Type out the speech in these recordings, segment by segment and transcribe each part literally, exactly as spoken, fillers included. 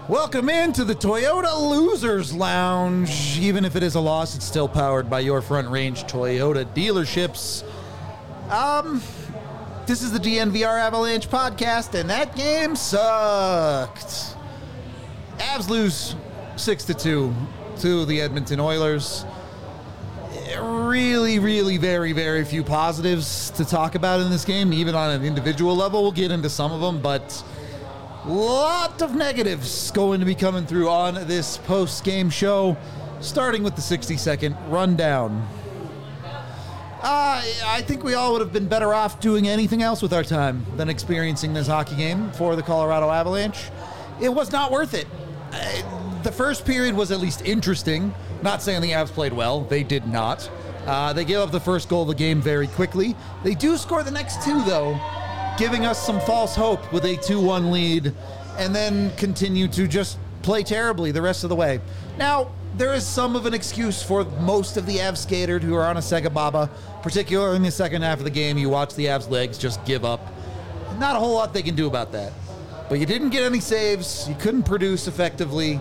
Welcome into the Toyota Losers Lounge. Even if it is a loss, it's still powered by your Front Range Toyota dealerships. Um, this is the D N V R Avalanche podcast, and that game sucked. Avs lose six to two to the Edmonton Oilers. Really, really very, very few positives to talk about in this game, even on an individual level. We'll get into some of them, but lot of negatives going to be coming through on this post-game show, starting with the sixty-second rundown. Uh, I think we all would have been better off doing anything else with our time than experiencing this hockey game for the Colorado Avalanche. It was not worth it. Uh, the first period was at least interesting. Not saying the Avs played well. They did not. Uh, they gave up the first goal of the game very quickly. They do score the next two, though, giving us some false hope with a two one lead, and then continue to just play terribly the rest of the way. Now, there is some of an excuse for most of the Avs skaters who are on a Sega Baba, particularly in the second half of the game. You watch the Avs legs just give up. Not a whole lot they can do about that. But you didn't get any saves. You couldn't produce effectively.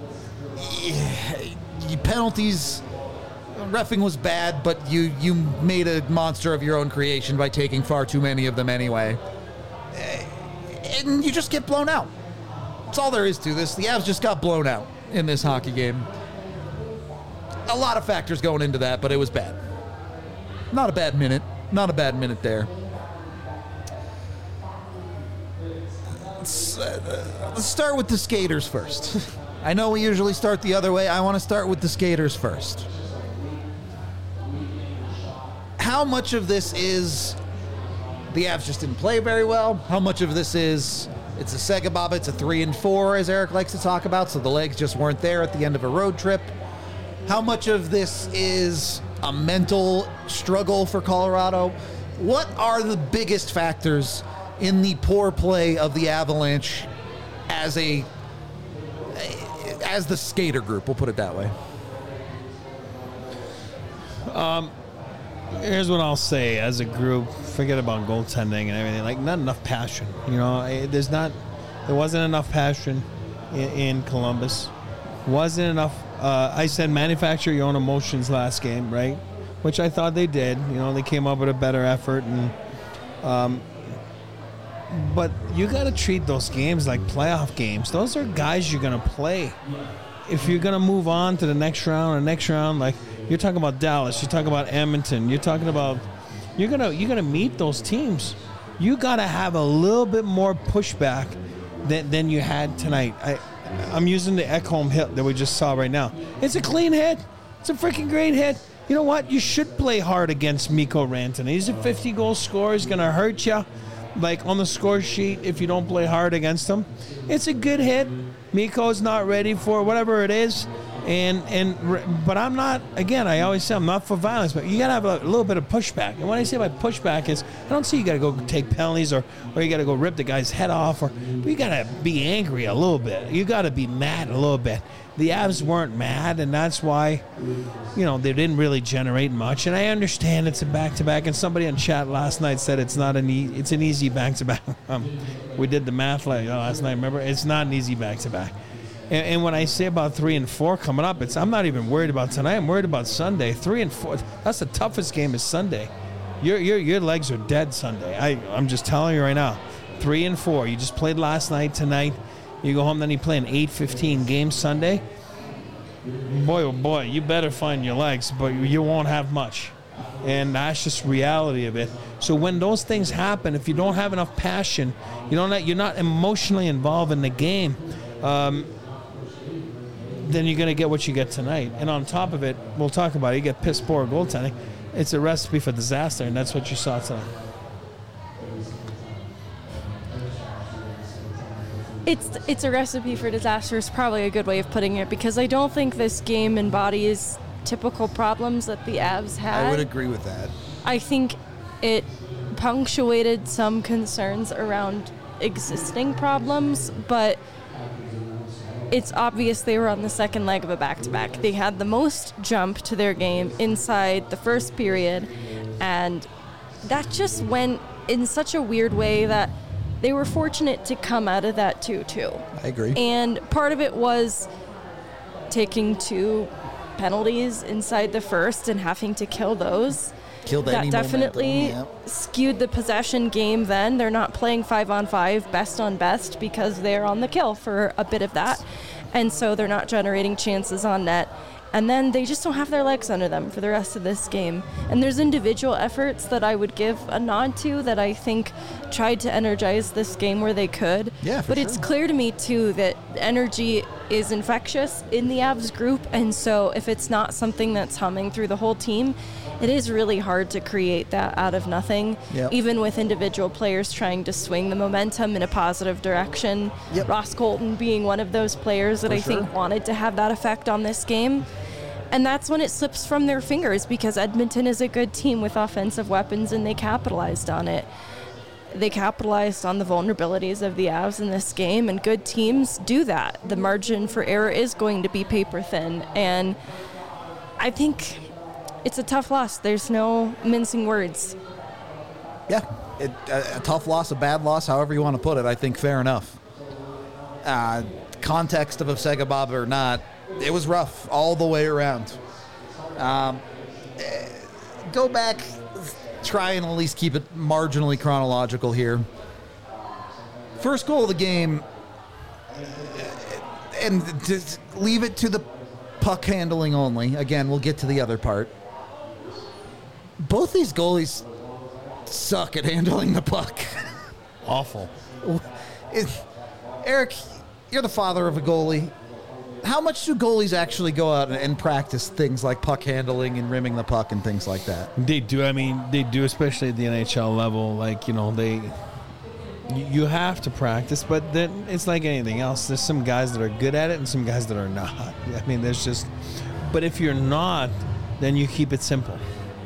Penalties, reffing was bad, but you, you made a monster of your own creation by taking far too many of them anyway. And you just get blown out. That's all there is to this. The Avs just got blown out in this hockey game. A lot of factors going into that, but it was bad. Not a bad minute. Not a bad minute there. Let's, uh, let's start with the skaters first. I know we usually start the other way. I want to start with the skaters first. How much of this is the Avs just didn't play very well? How much of this is it's a Sega Baba, it's a three and four, as Eric likes to talk about, so the legs just weren't there at the end of a road trip? How much of this is a mental struggle for Colorado? What are the biggest factors in the poor play of the Avalanche as a as the skater group? We'll put it that way. Um, here's what I'll say as a group. Forget about goaltending and everything. Like, not enough passion. You know, there's not, there wasn't enough passion in, in Columbus. Wasn't enough. Uh, I said manufacture your own emotions last game, right? Which I thought they did. You know, they came up with a better effort, and um, but you got to treat those games like playoff games. Those are guys you're going to play. If you're going to move on to the next round or next round, like you're talking about Dallas, you're talking about Edmonton, you're talking about, you're going to you're going to meet those teams. You got to have a little bit more pushback than, than you had tonight. I, I'm using the Ekholm hit that we just saw right now. It's a clean hit. It's a freaking great hit. You know what? You should play hard against Mikko Rantanen. He's a fifty-goal scorer. He's going to hurt you. Like on the score sheet, if you don't play hard against him, it's a good hit. Mikko's not ready for whatever it is, and and but I'm not. Again, I always say I'm not for violence, but you gotta have a, a little bit of pushback. And when I say by pushback is, I don't say you gotta go take penalties or or you gotta go rip the guy's head off, or you gotta be angry a little bit. You gotta be mad a little bit. The Avs weren't mad, and that's why, you know, they didn't really generate much. And I understand it's a back-to-back, and somebody in chat last night said it's not an e- it's an easy back-to-back. um, we did the math like, oh, last night, remember? It's not an easy back-to-back. And, and when I say about three and four coming up, it's I'm not even worried about tonight. I'm worried about Sunday. Three and four, that's the toughest game is Sunday. Your your your legs are dead Sunday. I, I'm just telling you right now. Three and four. You just played last night, tonight. You go home, then you play an eight fifteen game Sunday. Boy, oh boy, you better find your legs, but you won't have much. And that's just reality of it. So when those things happen, if you don't have enough passion, you don't, you're not emotionally involved in the game, um, then you're going to get what you get tonight. And on top of it, we'll talk about it, you get piss poor goaltending. It's a recipe for disaster, and that's what you saw tonight. It's it's a recipe for disaster is probably a good way of putting it, because I don't think this game embodies typical problems that the Avs had. I would agree with that. I think it punctuated some concerns around existing problems, but it's obvious they were on the second leg of a back-to-back. They had the most jump to their game inside the first period, and that just went in such a weird way that they were fortunate to come out of that two two. I agree. And part of it was taking two penalties inside the first and having to kill those. Killed that any definitely momentum, yep. skewed the possession game then. They're not playing five on five, best on best, because they're on the kill for a bit of that. And so they're not generating chances on net. And then they just don't have their legs under them for the rest of this game. And there's individual efforts that I would give a nod to that I think tried to energize this game where they could. Yeah, for but sure. it's clear to me, too, that energy is infectious in the Avs group. And so if it's not something that's humming through the whole team, it is really hard to create that out of nothing, Yep. even with individual players trying to swing the momentum in a positive direction. Yep. Ross Colton being one of those players that For I think sure. wanted to have that effect on this game. And that's when it slips from their fingers, because Edmonton is a good team with offensive weapons and they capitalized on it. They capitalized on the vulnerabilities of the Avs in this game, and good teams do that. The margin for error is going to be paper thin, and I think it's a tough loss. There's no mincing words. Yeah, it, a, a tough loss, a bad loss, however you want to put it. I think fair enough. Uh, context of a Sega Bob or not, it was rough all the way around. Um, eh, go back, try and at least keep it marginally chronological here. First goal of the game, and just leave it to the puck handling only. Again, we'll get to the other part. Both these goalies suck at handling the puck. Awful. It- Eric, you're the father of a goalie. How much do goalies actually go out and, and practice things like puck handling and rimming the puck and things like that? They do. I mean, they do, especially at the N H L level. Like, you know, they you you have to practice, but then it's like anything else. There's some guys that are good at it and some guys that are not. I mean, there's just. But if you're not, then you keep it simple.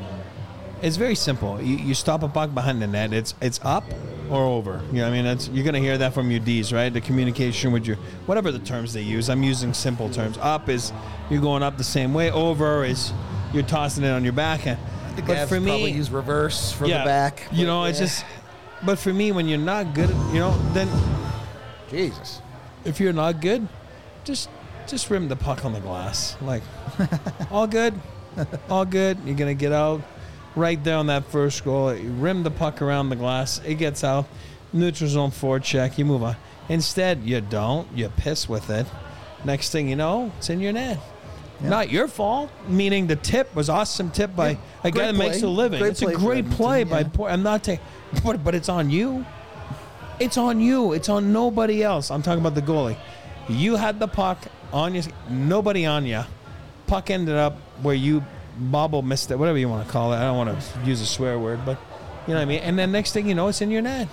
It's very simple. You, you stop a puck behind the net. It's it's up or over. You know what I mean? It's, you're going to hear that from your Ds, right? The communication with your, whatever the terms they use. I'm using simple terms. Up is you're going up the same way. Over is you're tossing it on your backhand. I think But Avs for me, probably use reverse for yeah, the back. You know, but it's yeah. just. But for me, when you're not good, at, you know, then Jesus. if you're not good, just just rim the puck on the glass. Like, all good, all good. You're gonna get out. Right there on that first goal, you rim the puck around the glass, it gets out, neutral zone forecheck, you move on. Instead, you don't, you piss with it. Next thing you know, it's in your net. Yeah. Not your fault, meaning the tip was awesome tip by Yeah, a guy great that makes play. a living. Great It's a play for great Edmonton, play by yeah. Por- I'm not taking, but, but it's on you. It's on you. It's on nobody else. I'm talking about the goalie. You had the puck on you, nobody on you. Puck ended up where you bobble missed it, whatever you want to call it. I don't want to use a swear word, but you know what I mean. And then next thing you know, it's in your net.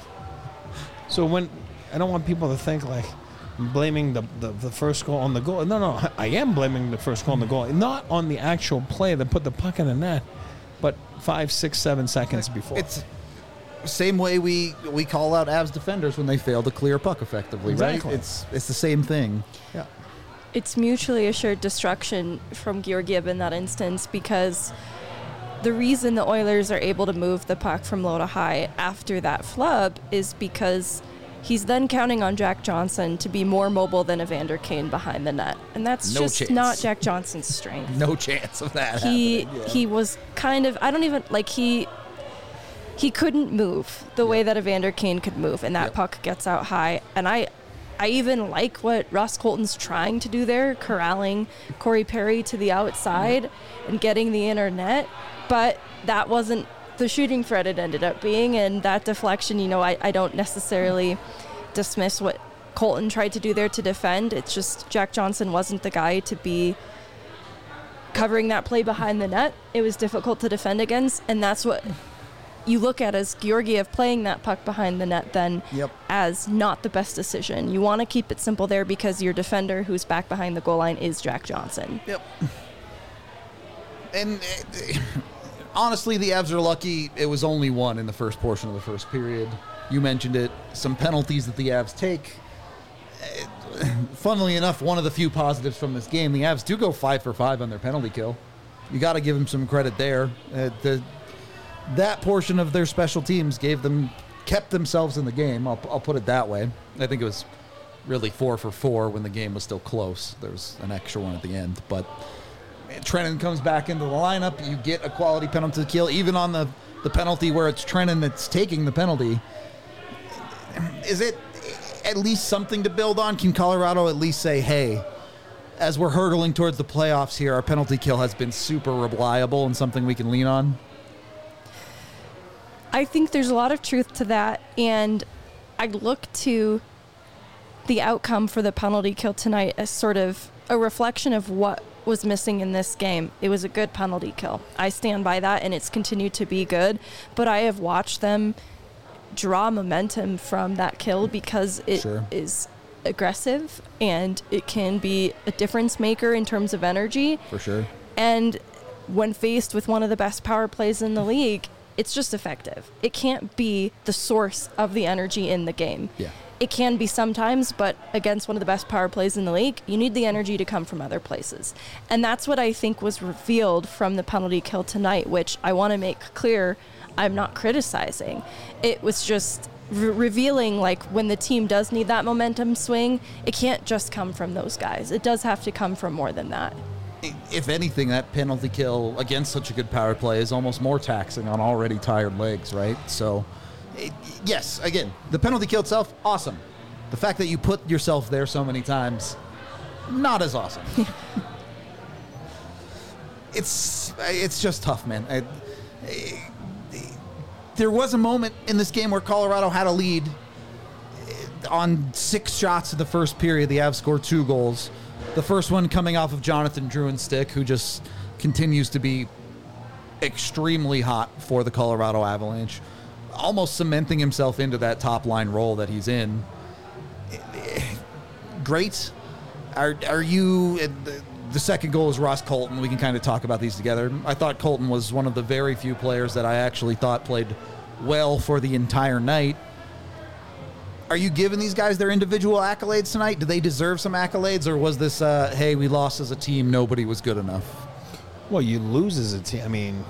So when I don't want people to think like I'm blaming the, the the first goal on the goal. No, no, I am blaming the first goal on the goal, not on the actual play that put the puck in the net, but five, six, seven seconds before. It's same way we we call out Avs defenders when they fail to clear a puck effectively, Exactly. right? It's it's the same thing. yeah. It's mutually assured destruction from Georgiev in that instance, because the reason the Oilers are able to move the puck from low to high after that flub is because he's then counting on Jack Johnson to be more mobile than Evander Kane behind the net. And that's No just chance. not Jack Johnson's strength. No chance of that he happening. Yeah. he was kind of I don't even like he he couldn't move the way that Evander Kane could move, and that Yep. puck gets out high. And I I even like what Ross Colton's trying to do there, corralling Corey Perry to the outside and getting the inner net, but that wasn't the shooting threat it ended up being. And that deflection, you know, I, I don't necessarily dismiss what Colton tried to do there to defend. It's just Jack Johnson wasn't the guy to be covering that play behind the net. It was difficult to defend against, and that's what you look at as Georgiev playing that puck behind the net then Yep. as not the best decision. You want to keep it simple there because your defender who's back behind the goal line is Jack Johnson. Yep. And uh, honestly, the Avs are lucky it was only one in the first portion of the first period. You mentioned it. Some penalties that the Avs take. Uh, Funnily enough, one of the few positives from this game, the Avs do go five for five on their penalty kill. You got to give them some credit there. Uh, the that portion of their special teams gave them kept themselves in the game. I'll, I'll put it that way. I think it was really four for four when the game was still close. There was an extra one at the end. But Trennan comes back into the lineup. You get a quality penalty kill, even on the, the penalty where it's Trennan that's taking the penalty. Is it at least something to build on? Can Colorado at least say, hey, as we're hurtling towards the playoffs here, our penalty kill has been super reliable and something we can lean on? I think there's a lot of truth to that, and I look to the outcome for the penalty kill tonight as sort of a reflection of what was missing in this game. It was a good penalty kill. I stand by that, and it's continued to be good, but I have watched them draw momentum from that kill because it Sure. is aggressive and it can be a difference maker in terms of energy. For sure. And when faced with one of the best power plays in the league, it's just effective. It can't be the source of the energy in the game. Yeah. It can be sometimes, but against one of the best power plays in the league, you need the energy to come from other places. And that's what I think was revealed from the penalty kill tonight, which I want to make clear I'm not criticizing. It was just re- revealing, like, when the team does need that momentum swing, it can't just come from those guys. It does have to come from more than that. If anything, that penalty kill against such a good power play is almost more taxing on already tired legs, right? So, it, yes, again, the penalty kill itself, awesome. The fact that you put yourself there so many times, not as awesome. it's it's just tough, man. I, I, there was a moment in this game where Colorado had a lead on six shots in the first period. The Avs scored two goals. The first one coming off of Jonathan Drouin's stick, who just continues to be extremely hot for the Colorado Avalanche, almost cementing himself into that top-line role that he's in. Great. Are are you... The second goal is Ross Colton. We can kind of talk about these together. I thought Colton was one of the very few players that I actually thought played well for the entire night. Are you giving these guys their individual accolades tonight? Do they deserve some accolades, or was this, uh, hey, we lost as a team, nobody was good enough? Well, you lose as a team. I mean,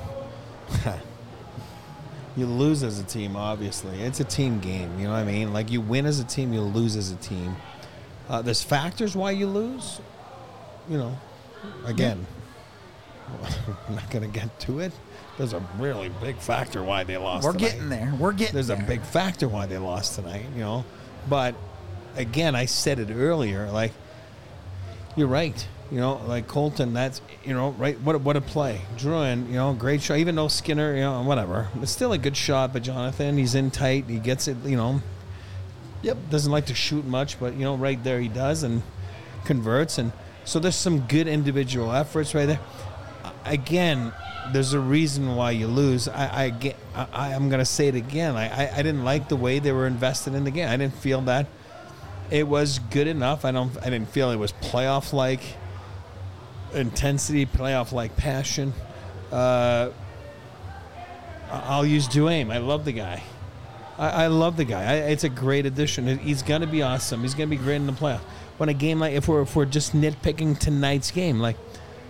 you lose as a team, obviously. It's a team game, you know what I mean? Like, you win as a team, you lose as a team. Uh, there's factors why you lose. You know, again, yeah. I'm not going to get to it. There's a really big factor why they lost We're tonight. getting there. We're getting There's there. a big factor why they lost tonight, you know. But, again, I said it earlier, like, you're right. You know, like Colton, that's, you know, right, what, what a play. Drouin, you know, great shot. Even though Skinner, you know, whatever. It's still a good shot, but Jonathan, he's in tight. He gets it, you know. Yep, doesn't like to shoot much, but, you know, right there he does and converts. And so there's some good individual efforts right there. Again, there's a reason why you lose. I, I get, I, I'm going to say it again. I, I, I didn't like the way they were invested in the game. I didn't feel that it was good enough. I don't. I didn't feel it was playoff-like intensity, playoff-like passion. Uh, I'll use Duane. I love the guy. I, I love the guy. I, it's a great addition. He's going to be awesome. He's going to be great in the playoffs. When a game like, if we're if we're just nitpicking tonight's game, like,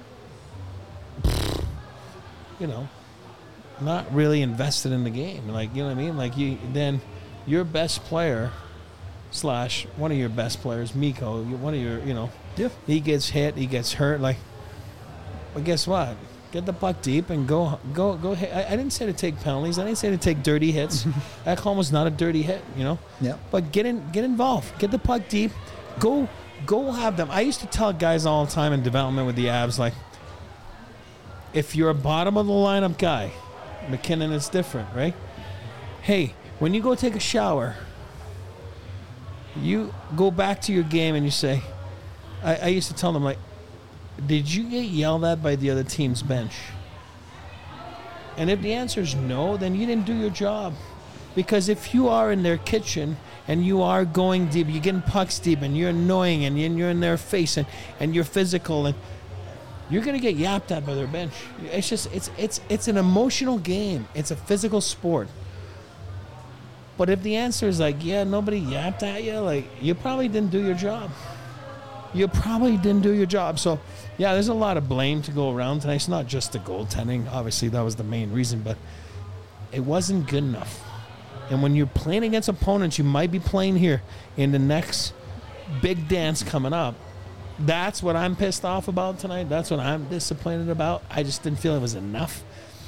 you know, not really invested in the game. Like, you know what I mean? Like, you then your best player slash one of your best players, Mikko, one of your, you know, yeah. he gets hit, he gets hurt. Like, well, guess what? Get the puck deep and go, go, go. Hit. I, I didn't say to take penalties. I didn't say to take dirty hits. Ekholm was not a dirty hit, you know. Yeah. But get in, get involved. Get the puck deep. Go, go have them. I used to tell guys all the time in development with the Avs, like, if you're a bottom of the lineup guy, McKinnon is different, right? Hey, when you go take a shower, you go back to your game and you say, I, I used to tell them, like, did you get yelled at by the other team's bench? And if the answer is no, then you didn't do your job. Because if you are in their kitchen and you are going deep, you're getting pucks deep and you're annoying and you're in their face and, and you're physical and you're going to get yapped at by their bench. It's just, it's it's it's an emotional game. It's a physical sport. But if the answer is like, yeah, nobody yapped at you, like, you probably didn't do your job. You probably didn't do your job. So, yeah, there's a lot of blame to go around tonight. It's not just the goaltending. Obviously, that was the main reason, but it wasn't good enough. And when you're playing against opponents you might be playing here in the next big dance coming up, that's what I'm pissed off about tonight. That's what I'm disappointed about. I just didn't feel it was enough.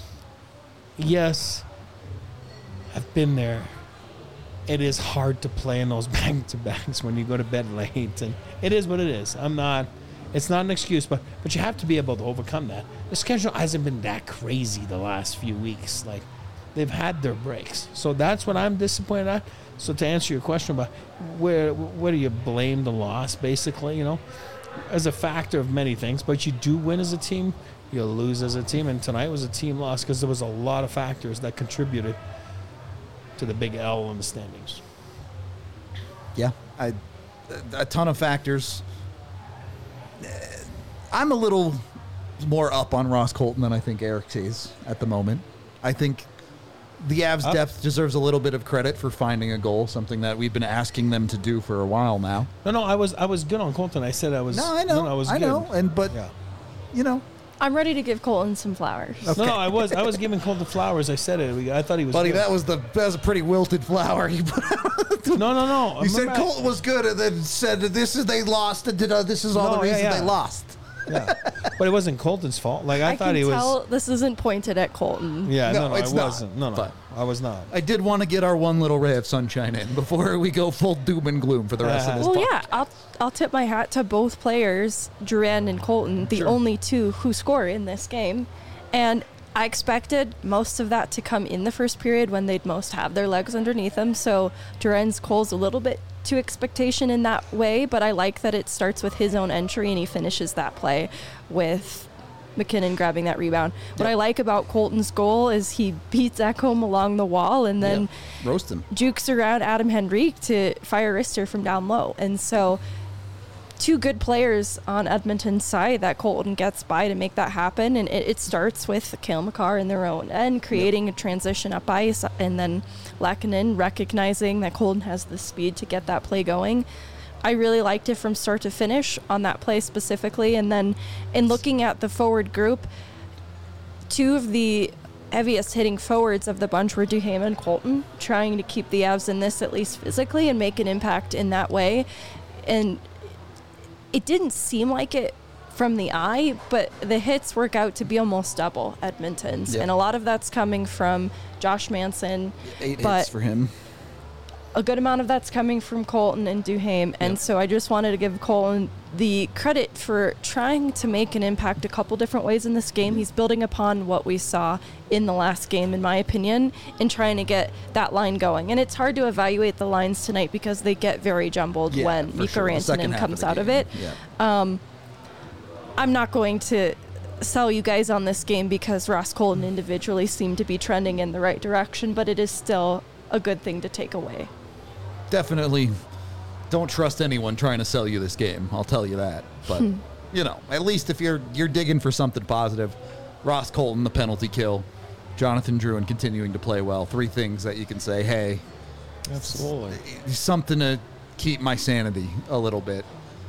Yes, I've been there. It is hard to play in those back-to-backs when you go to bed late, and it is what it is. I'm not, it's not an excuse, but but you have to be able to overcome that. The schedule hasn't been that crazy the last few weeks. Like, they've had their breaks. So that's what I'm disappointed at. So to answer your question about where where do you blame the loss, basically, you know, as a factor of many things, but you do win as a team, you lose as a team, and tonight was a team loss because there was a lot of factors that contributed to the big L in the standings. Yeah, I, a ton of factors. I'm a little more up on Ross Colton than I think Eric is at the moment. I think the Avs Up. depth deserves a little bit of credit for finding a goal, something that we've been asking them to do for a while now. No, no, I was I was good on Colton. I said I was. No, I know, no, I was I good. know, and but Yeah. you know, I'm ready to give Colton some flowers. Okay. No, no, I was I was giving Colton flowers. I said it. We- I thought he was. buddy, good. that was the that was a pretty wilted flower you put out. No, no, no. You said Remember I- Colton was good, and then said that this is they lost, and did, uh, this is all No, the yeah, reason yeah. they lost. Yeah, but it wasn't Colton's fault. Like I, I thought can he was. tell this isn't pointed at Colton. Yeah, no, No, no, it's I not, wasn't. No, no, but- I was not. I did want to get our one little ray of sunshine in before we go full doom and gloom for the rest of this. Well, podcast. yeah, I'll I'll tip my hat to both players, Duran and Colton, the Sure. only two who score in this game, and I expected most of that to come in the first period when they'd most have their legs underneath them. So Duran's goal's a little bit to expectation in that way, but I like that it starts with his own entry and he finishes that play with McKinnon grabbing that rebound. What Yep. I like about Colton's goal is he beats Ekholm along the wall and then Yeah. Roast him. jukes around Adam Henrique to fire wrister from down low. And so two good players on Edmonton's side that Colton gets by to make that happen. And it, it starts with Cale Makar in their own end, creating a transition up ice, and then Lehkonen recognizing that Colton has the speed to get that play going. I really liked it from start to finish on that play specifically. And then in looking at the forward group, two of the heaviest hitting forwards of the bunch were Duhaime and Colton, trying to keep the Avs in this at least physically and make an impact in that way. And it didn't seem like it from the eye, but the hits work out to be almost double Edmonton's. Yep. And a lot of that's coming from Josh Manson. Eight but hits for him. a good amount of that's coming from Colton and Duhaime. And Yep. so I just wanted to give Colton the credit for trying to make an impact a couple different ways in this game. He's building upon what we saw in the last game, in my opinion, in trying to get that line going. And it's hard to evaluate the lines tonight because they get very jumbled Yeah, when for Mika sure. The second Rantanen half comes the out of game. it. Yeah. I'm not going to sell you guys on this game because Ross Colton individually seemed to be trending in the right direction, but it is still a good thing to take away. Definitely don't trust anyone trying to sell you this game. I'll tell you that. But, you know, at least if you're you're digging for something positive, Ross Colton, the penalty kill, Jonathan Drouin continuing to play well. Three things that you can say, hey, Absolutely. something to keep my sanity a little bit.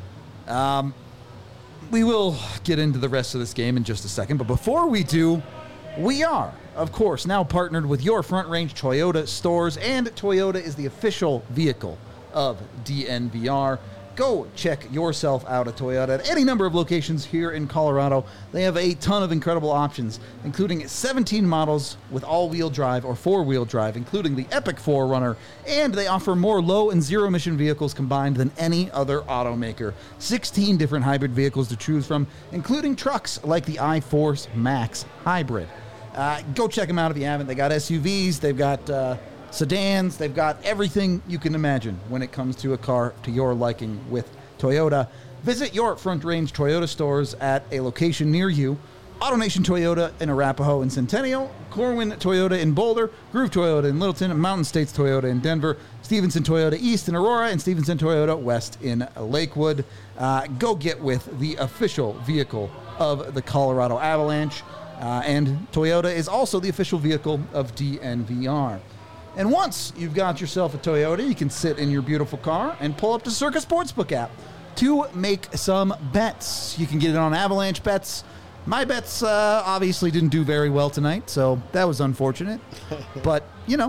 Um, we will get into the rest of this game in just a second, but before we do, we are, of course, now partnered with your Front Range Toyota stores, and Toyota is the official vehicle of D N V R. Go check yourself out at Toyota at any number of locations here in Colorado. They have a ton of incredible options, including seventeen models with all-wheel drive or four-wheel drive, including the Epic four runner, and they offer more low and zero-emission vehicles combined than any other automaker. sixteen different hybrid vehicles to choose from, including trucks like the iForce Max Hybrid. Uh, go check them out if you haven't. They got S U Vs, they've got uh, sedans, they've got everything you can imagine when it comes to a car to your liking with Toyota. Visit your Front Range Toyota stores at a location near you. AutoNation Toyota in Arapahoe and Centennial, Corwin Toyota in Boulder, Groove Toyota in Littleton, Mountain States Toyota in Denver, Stevenson Toyota East in Aurora, and Stevenson Toyota West in Lakewood. Uh, go get with the official vehicle of the Colorado Avalanche. Uh, and Toyota is also the official vehicle of D N V R. And once you've got yourself a Toyota, you can sit in your beautiful car and pull up the Circa Sportsbook app to make some bets. You can get it on Avalanche bets. My bets uh, obviously didn't do very well tonight, so that was unfortunate. But, you know,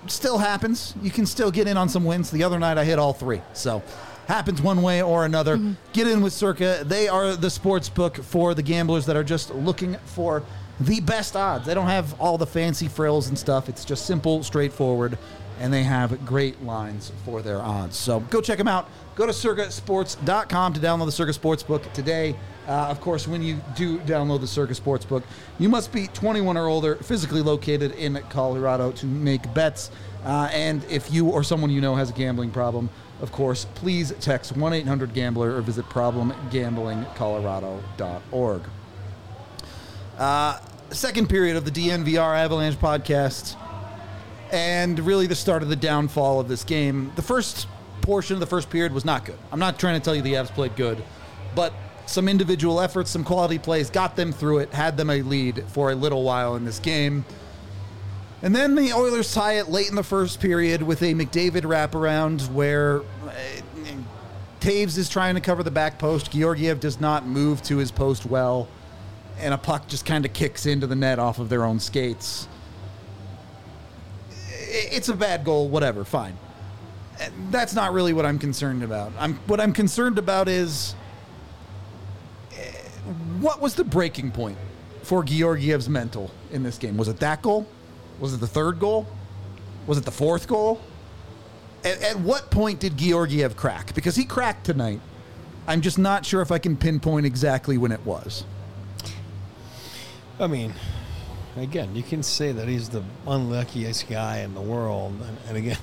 still happens. You can still get in on some wins. The other night I hit all three. So happens one way or another. Mm-hmm. Get in with Circa. They are the sports book for the gamblers that are just looking for the best odds. They don't have all the fancy frills and stuff. It's just simple, straightforward, and they have great lines for their odds. So go check them out. Go to circa sports dot com to download the Circa Sportsbook today. Uh, of course, when you do download the Circa Sportsbook, you must be twenty-one or older, physically located in Colorado to make bets. Uh, and if you or someone you know has a gambling problem, of course, please text one eight hundred gambler or visit problem gambling colorado dot org. Uh, second period of the D N V R Avalanche podcast, and really the start of the downfall of this game. The first portion of the first period was not good. I'm not trying to tell you the Avs played good, but some individual efforts, some quality plays got them through it, had them a lead for a little while in this game. And then the Oilers tie it late in the first period with a McDavid wraparound where uh, Taves is trying to cover the back post. Georgiev does not move to his post well, and a puck just kind of kicks into the net off of their own skates. It's a bad goal, whatever, fine. That's not really what I'm concerned about. I'm what I'm concerned about is what was the breaking point for Georgiev's mental in this game? Was it that goal? Was it the third goal? Was it the fourth goal? At, at what point did Georgiev crack? Because he cracked tonight. I'm just not sure if I can pinpoint exactly when it was. I mean, again, you can say that he's the unluckiest guy in the world. And, and again,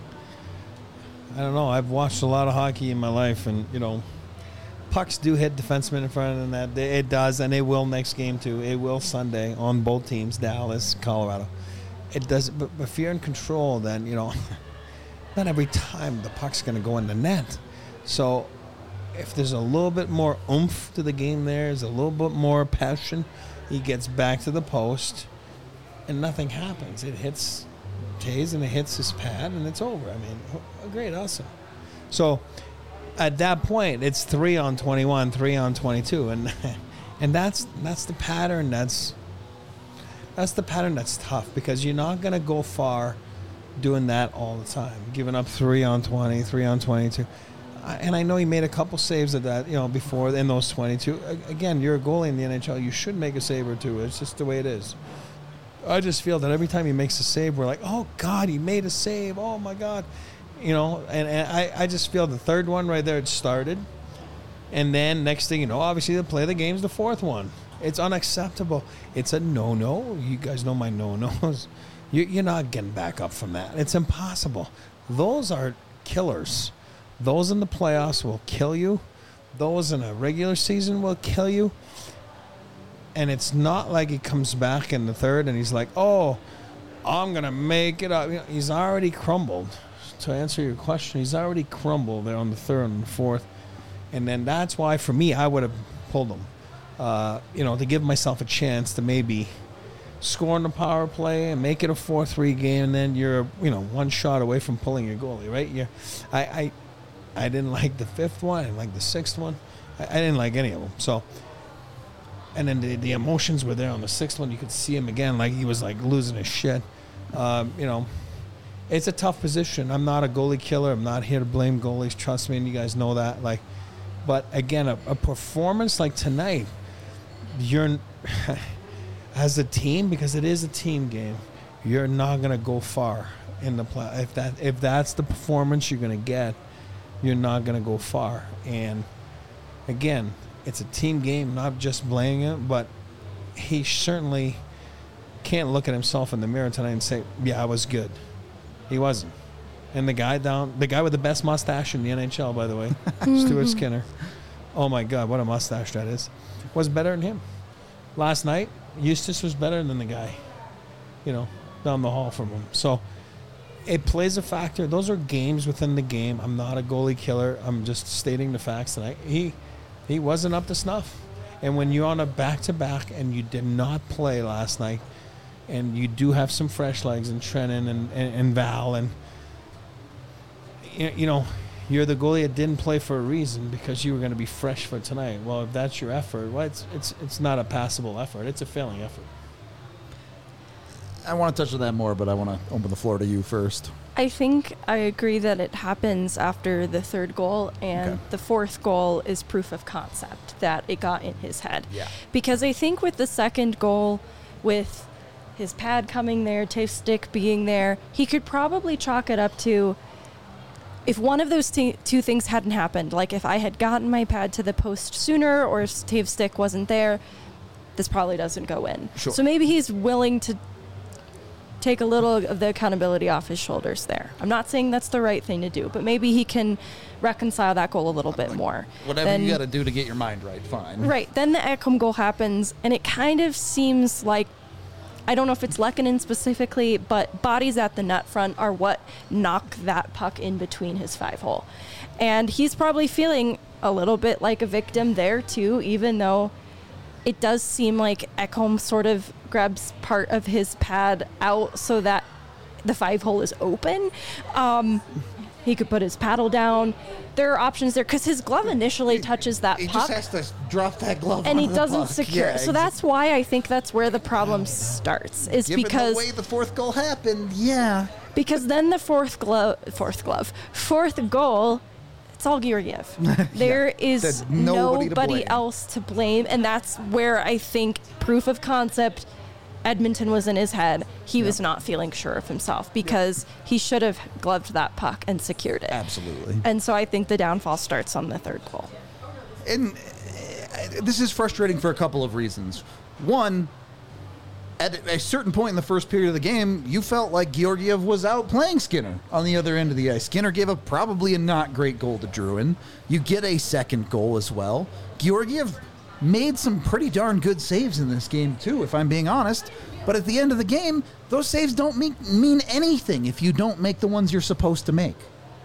I don't know. I've watched a lot of hockey in my life, and, you know, pucks do hit defensemen in front of that. It does, and it will next game, too. It will Sunday on both teams, Dallas, Colorado. It does, but if you're in control, then, you know, not every time the puck's going to go in the net. So if there's a little bit more oomph to the game there, there's a little bit more passion, he gets back to the post, and nothing happens. It hits Taves, and it hits his pad, and it's over. I mean, great, awesome. So at that point, it's three on twenty-one, three on twenty-two, and and that's that's the pattern. That's that's the pattern that's tough, because you're not going to go far doing that all the time, giving up three on twenty, three on twenty-two. And I know he made a couple saves of that, you know, before in those twenty-two. Again, you're a goalie in the N H L. You should make a save or two. It's just the way it is. I just feel that every time he makes a save, we're like, oh, God, he made a save. Oh, my God. You know, and, and I, I just feel the third one right there, it started. And then next thing you know, obviously the play of the game's the fourth one. It's unacceptable. It's a no-no. You guys know my no-nos. You, you're not getting back up from that. It's impossible. Those are killers. Those in the playoffs will kill you. Those in a regular season will kill you. And it's not like he comes back in the third and he's like, oh, I'm going to make it up. You know, he's already crumbled. To answer your question, he's already crumbled there on the third and the fourth. And then that's why, for me, I would have pulled him, uh, you know, to give myself a chance to maybe score on the power play and make it a four three game. And then you're, you know, one shot away from pulling your goalie, right? You're, I, I, I didn't like the fifth one. I didn't like the sixth one. I, I didn't like any of them. So, and then the, the emotions were there on the sixth one. You could see him again, like he was like losing his shit. Um, you know, it's a tough position. I'm not a goalie killer. I'm not here to blame goalies. Trust me, and you guys know that. Like, but again, a, a performance like tonight, you're as a team, because it is a team game, you're not gonna go far in the play. If that if that's the performance you're gonna get, you're not gonna go far. And again, it's a team game, not just blaming him, but he certainly can't look at himself in the mirror tonight and say, yeah, I was good. He wasn't. And the guy down, the guy with the best mustache in the N H L, by the way, Stuart Skinner. Oh, my God, what a mustache that is. Was better than him. Last night, Eustace was better than the guy, you know, down the hall from him. So it plays a factor. Those are games within the game. I'm not a goalie killer. I'm just stating the facts tonight. He... He wasn't up to snuff. And when you're on a back-to-back and you did not play last night, and you do have some fresh legs in Trennan and, and, and Val, and, you know, you're the goalie that didn't play for a reason, because you were going to be fresh for tonight. Well, if that's your effort, well, it's, it's, it's not a passable effort. It's a failing effort. I want to touch on that more, but I want to open the floor to you first. I think I agree that it happens after the third goal, and Okay. the fourth goal is proof of concept that it got in his head. Yeah. Because I think with the second goal, with his pad coming there, Tave's stick being there, he could probably chalk it up to, if one of those t- two things hadn't happened, like if I had gotten my pad to the post sooner or if Tave's stick wasn't there, this probably doesn't go in. Sure. So maybe he's willing to take a little of the accountability off his shoulders there. I'm not saying that's the right thing to do, but maybe he can reconcile that goal a little bit more. Whatever Then- you got to do to get your mind right, fine. Right. Then the Ekholm goal happens, and it kind of seems like, I don't know if it's Lehkonen specifically, but bodies at the net front are what knock that puck in between his five hole. And he's probably feeling a little bit like a victim there too, even though it does seem like Ekholm sort of grabs part of his pad out so that the five hole is open. Um, he could put his paddle down. There are options there because his glove initially touches that He puck. just has to drop that glove And he onto the doesn't puck. secure. Yeah, So that's why I think that's where the problem starts. Is Given because the way the fourth goal happened, yeah. because then the fourth glove, fourth glove, fourth goal, it's all Georgiev. There is There's nobody to nobody blame. else to blame, and that's where I think proof of concept. Edmonton was in his head. He was not feeling sure of himself because he should have gloved that puck and secured it. Absolutely. And so I think the downfall starts on the third goal. And uh, this is frustrating for a couple of reasons. One, at a certain point in the first period of the game, you felt like Georgiev was outplaying Skinner on the other end of the ice. Skinner gave up probably a not great goal to Drouin. You get a second goal as well. Georgiev made some pretty darn good saves in this game, too, if I'm being honest. But at the end of the game, those saves don't mean, mean anything if you don't make the ones you're supposed to make.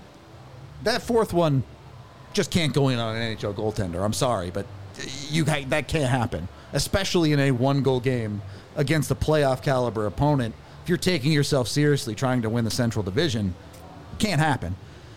That fourth one just can't go in on an N H L goaltender. I'm sorry, but you that can't happen, especially in a one-goal game against a playoff caliber opponent. If you're taking yourself seriously trying to win the Central Division, can't happen.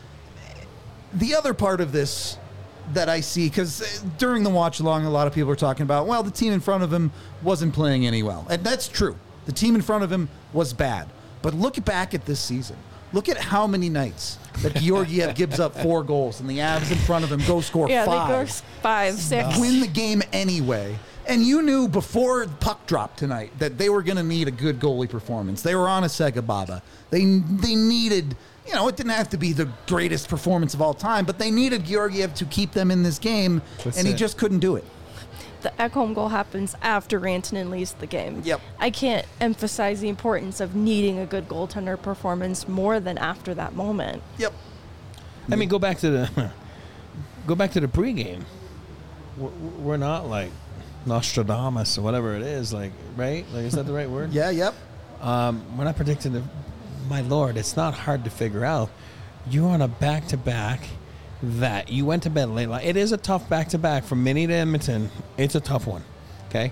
The other part of this that I see, because during the watch along, a lot of people are talking about, well, the team in front of him wasn't playing any well. And that's true. The team in front of him was bad. But look back at this season. Look at how many nights that Georgiev gives up four goals and the Avs in front of him go score Yeah, five. they go five, six. Win the game anyway. And you knew before the puck dropped tonight that they were going to need a good goalie performance. They were on a Sega Baba. They they needed, you know, it didn't have to be the greatest performance of all time, but they needed Georgiev to keep them in this game, That's and he it. just couldn't do it. The Ekholm goal happens after Rantanen leaves the game. Yep. I can't emphasize the importance of needing a good goaltender performance more than after that moment. Yep. I mean, go back to the go back to the pregame. We're, we're not like Nostradamus or whatever it is, like, right? Like, is that the right word? Yeah, yep. Um, we're not predicting the. My lord, it's not hard to figure out. You're on a back-to-back that you went to bed late. Like, it is a tough back-to-back from Minnie to Edmonton. It's a tough one. Okay.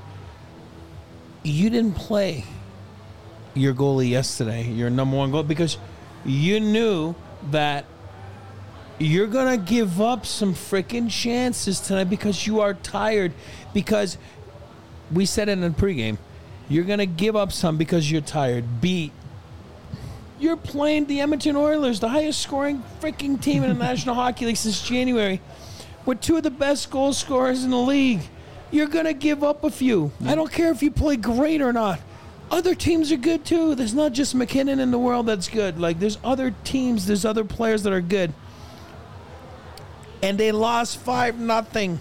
You didn't play your goalie yesterday, your number one goal, because you knew that you're going to give up some freaking chances tonight because you are tired. Because we said it in the pregame, you're going to give up some because you're tired. B, you're playing the Edmonton Oilers, the highest scoring freaking team in the National Hockey League since January, with two of the best goal scorers in the league. You're going to give up a few. I don't care if you play great or not. Other teams are good too. There's not just McKinnon in the world that's good. Like, there's other teams, there's other players that are good. And they lost five nothing.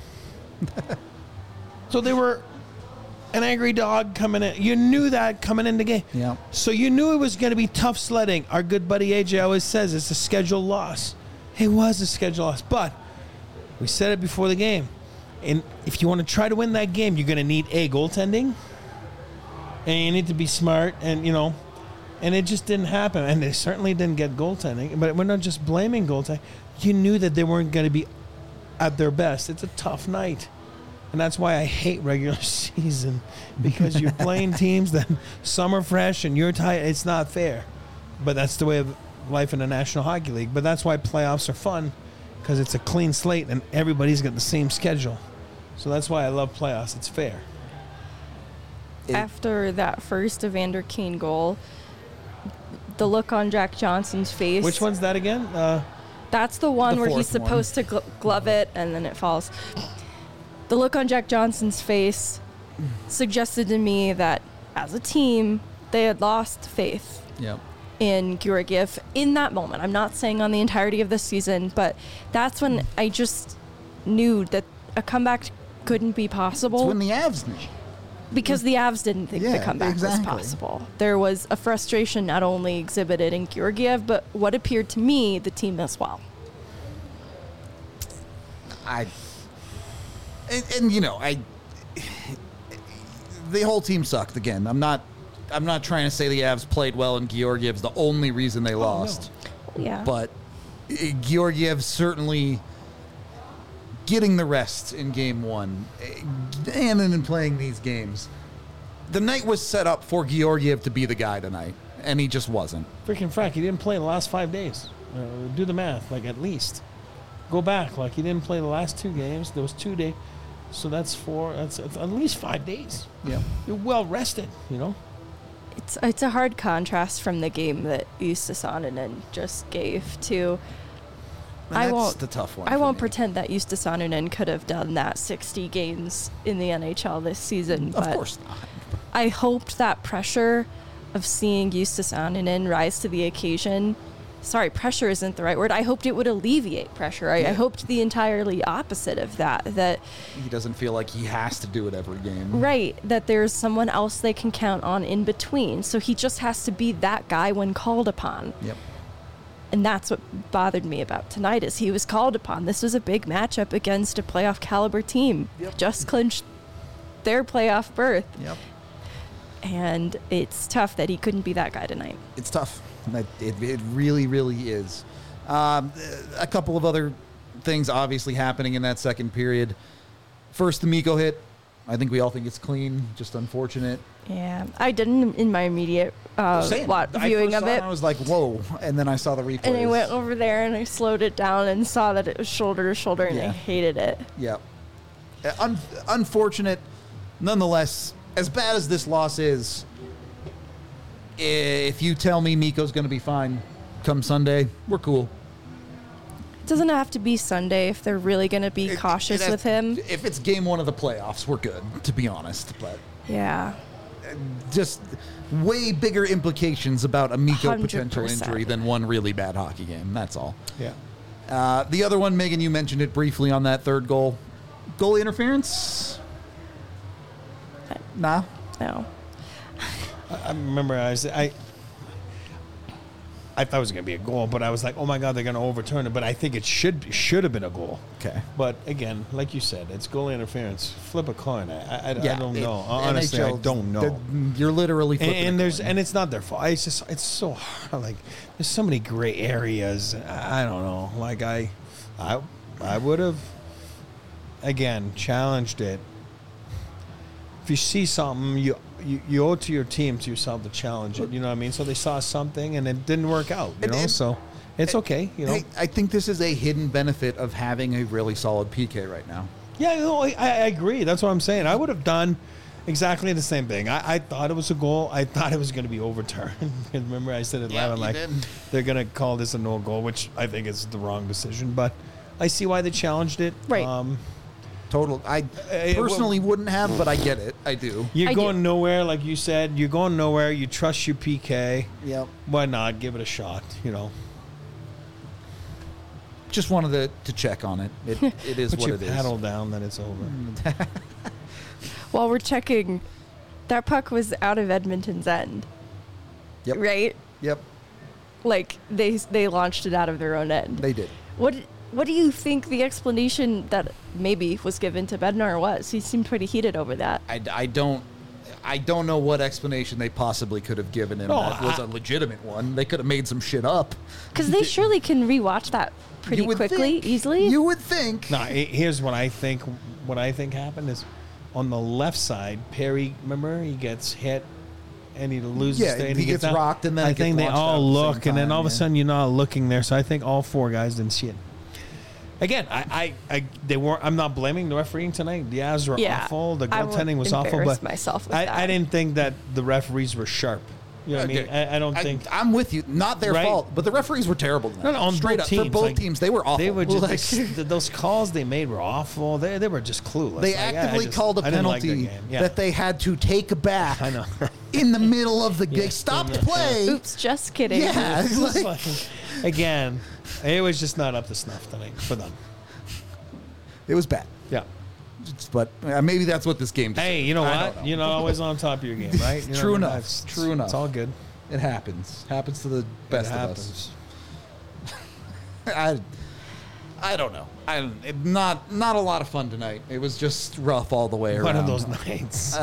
So they were an angry dog coming in. You knew that coming in the game. Yeah. So you knew it was going to be tough sledding. Our good buddy A J always says it's a scheduled loss. It was a scheduled loss. But we said it before the game. And if you want to try to win that game, you're going to need A, goaltending. And you need to be smart. And, you know, and it just didn't happen. And they certainly didn't get goaltending. But we're not just blaming goaltending. You knew that they weren't going to be at their best. It's a tough night. And that's why I hate regular season, because you're playing teams that some are fresh and you're tired. It's not fair. But that's the way of life in the National Hockey League. But that's why playoffs are fun, because it's a clean slate and everybody's got the same schedule. So that's why I love playoffs. It's fair. It- After that first Evander Kane goal, the look on Jack Johnson's face. Which one's that again? Uh, That's the one The where he's fourth one. supposed to gl- glove it and then it falls. The look on Jack Johnson's face suggested to me that as a team, they had lost faith Yep. in Georgiev in that moment. I'm not saying on the entirety of the season, but that's when I just knew that a comeback couldn't be It's possible when the Avs knew. because the Avs didn't think the Yeah, comeback exactly. was possible. There was a frustration not only exhibited in Georgiev, but what appeared to me the team as well. I and, and you know I the whole team sucked again. I'm not I'm not trying to say the Avs played well and Georgiev's the only reason they lost, Yeah. but uh, Georgiev certainly getting the rest in game one uh, and then in playing these games. The night was set up for Georgiev to be the guy tonight, and he just wasn't. freaking frack, he didn't play the last five days. Uh, do the math, like at least. Go back, like he didn't play the last two games. There was two days, so that's four. That's, that's at least five days. Yeah. You're well rested, you know. It's it's a hard contrast from the game that Justus Annunen just gave to. And I that's won't. the tough one. I for won't me. pretend that Justus Annunen could have done that sixty games in the N H L this season, Of but course not. I hoped that pressure of seeing Justus Annunen rise to the occasion. Sorry, pressure isn't the right word. I hoped it would alleviate pressure. I, I Yeah. hoped the entirely opposite of that. That He doesn't feel like he has to do it every game. right, that there's someone else they can count on in between. So he just has to be that guy when called upon. Yep. And that's what bothered me about tonight is he was called upon. This was a big matchup against a playoff caliber team. Yep. Just clinched their playoff berth. Yep. And it's tough that he couldn't be that guy tonight. It's tough. It, it, it really, really is. Um, a couple of other things obviously happening in that second period. First, the Mikko hit. I think we all think it's clean, just unfortunate. Yeah, I didn't in my immediate uh, Same. lot I viewing first of saw it. I was like, whoa. And then I saw the replay. And I went over there and I slowed it down and saw that it was shoulder to shoulder and I Yeah. hated it. Yep. Uh, Un- unfortunate. Nonetheless, as bad as this loss is, if you tell me Mikko's going to be fine come Sunday, we're cool. It doesn't have to be Sunday if they're really going to be It- cautious it has- with him. If it's game one of the playoffs, we're good, to be honest. But Yeah. just way bigger implications about a Mikko one hundred potential percent. injury than one really bad hockey game. That's all. Yeah. Uh, the other one, Megan, you mentioned it briefly on that third goal. Goalie interference? Nah. No. I remember I was I I thought it was going to be a goal, but I was like, oh my god, they're going to overturn it. But I think it should should have been a goal. Okay. But again, like you said, it's goal interference. Flip a coin. I, I, I don't it- know. Honestly, I N H L, don't know. the- You're literally And, flipping a and there's coin. and it's not their fault. It's just it's so hard. Like there's so many gray areas. I I don't know. Like I, I, I would have again challenged it. If you see something, you, you you owe it to your team to yourself to challenge it. You know what I mean? So they saw something and it didn't work out. You And- know, and- so it's okay. You know. Hey, I think this is a hidden benefit of having a really solid P K right now. Yeah, no, I, I agree. That's what I'm saying. I would have done exactly the same thing. I, I thought it was a goal. I thought it was going to be overturned. Remember, I said it Yeah, live. I'm you like, did. they're going to call this a no goal, which I think is the wrong decision. But I see why they challenged it. Right. Um, Total. I Eh, personally wouldn't have, but I get it. I do. you're I do. going nowhere, like you said. You're going nowhere. You trust your P K. Yep. Why not give it a shot? You know, Just wanted to, to check on it. It, it is put what your it is. paddle down, then it's over. While we're checking, that puck was out of Edmonton's end, Yep. right? Yep. Like they they launched it out of their own end. They did. What what do you think the explanation that maybe was given to Bednar was? He seemed pretty heated over that. I, I don't. I don't know what explanation they possibly could have given him No, that was I- a legitimate one. They could have made some shit up. Because they surely can rewatch that pretty You would quickly, think- easily. You would think. Now, he- here's what I think. What I think happened is, on the left side, Perry. Remember, he gets hit, and he loses. Yeah, the- and he gets down. rocked, and then I it gets think they launched out all at the same look, and then time, all of a yeah. sudden you're not looking there. So I think all four guys didn't see it. Again, I, I, I, they weren't. I'm not blaming the refereeing tonight. The Avs were Yeah, awful. The I won't goaltending was awful. embarrass But myself with I, that. I didn't think that the referees were sharp. You know what I mean? I, I don't think. I, I'm with you. Not their Right? fault, but the referees were terrible tonight. No, no, on Straight both up teams. for both like, teams, they were awful. They were just Like, th- those calls they made were awful. They they were just clueless. they Like, I- I actively just- called a I didn't like their penalty game. Yeah. that they had to take back. I know. in the middle of the game. Yeah. Stopped Yeah. play. Oops, just kidding. Yeah, It's just like- like- again, it was just not up to snuff tonight for them. It was bad. Yeah. But uh, maybe that's what this game does. Hey, you know I what? don't know. You're not always on top of your game, right? You know True what I mean? enough. That's- True enough. It's all good. It happens. Happens to the best it of happens. us. I, I don't know. I don't- it, not not a lot of fun tonight. It was just rough all the way around. One of those nights.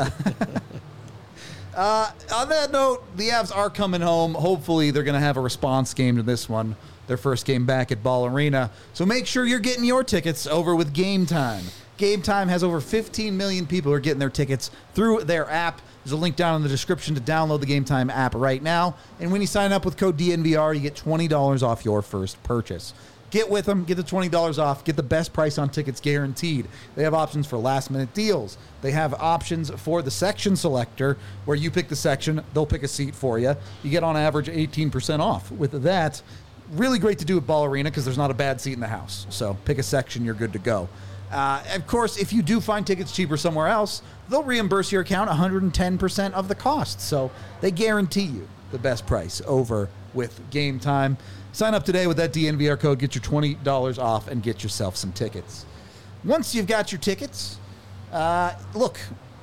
Uh, on that note, the Avs are coming home. Hopefully, they're going to have a response game to this one. Their first game back at Ball Arena. So make sure you're getting your tickets over with Game Time. Game Time has over fifteen million people who are getting their tickets through their app. There's a link down in the description to download the Game Time app right now. And when you sign up with code D N V R, you get twenty dollars off your first purchase. Get with them, get the twenty dollars off, get the best price on tickets guaranteed. They have options for last minute deals. They have options for the section selector where you pick the section, they'll pick a seat for you. You get on average eighteen percent off. With that, really great to do at Ball Arena because there's not a bad seat in the house. So pick a section, you're good to go. Uh, of course, if you do find tickets cheaper somewhere else, they'll reimburse your account one hundred ten percent of the cost. So they guarantee you the best price over with Game Time. Sign up today with that D N V R code, get your twenty dollars off, and get yourself some tickets. Once you've got your tickets, uh, look,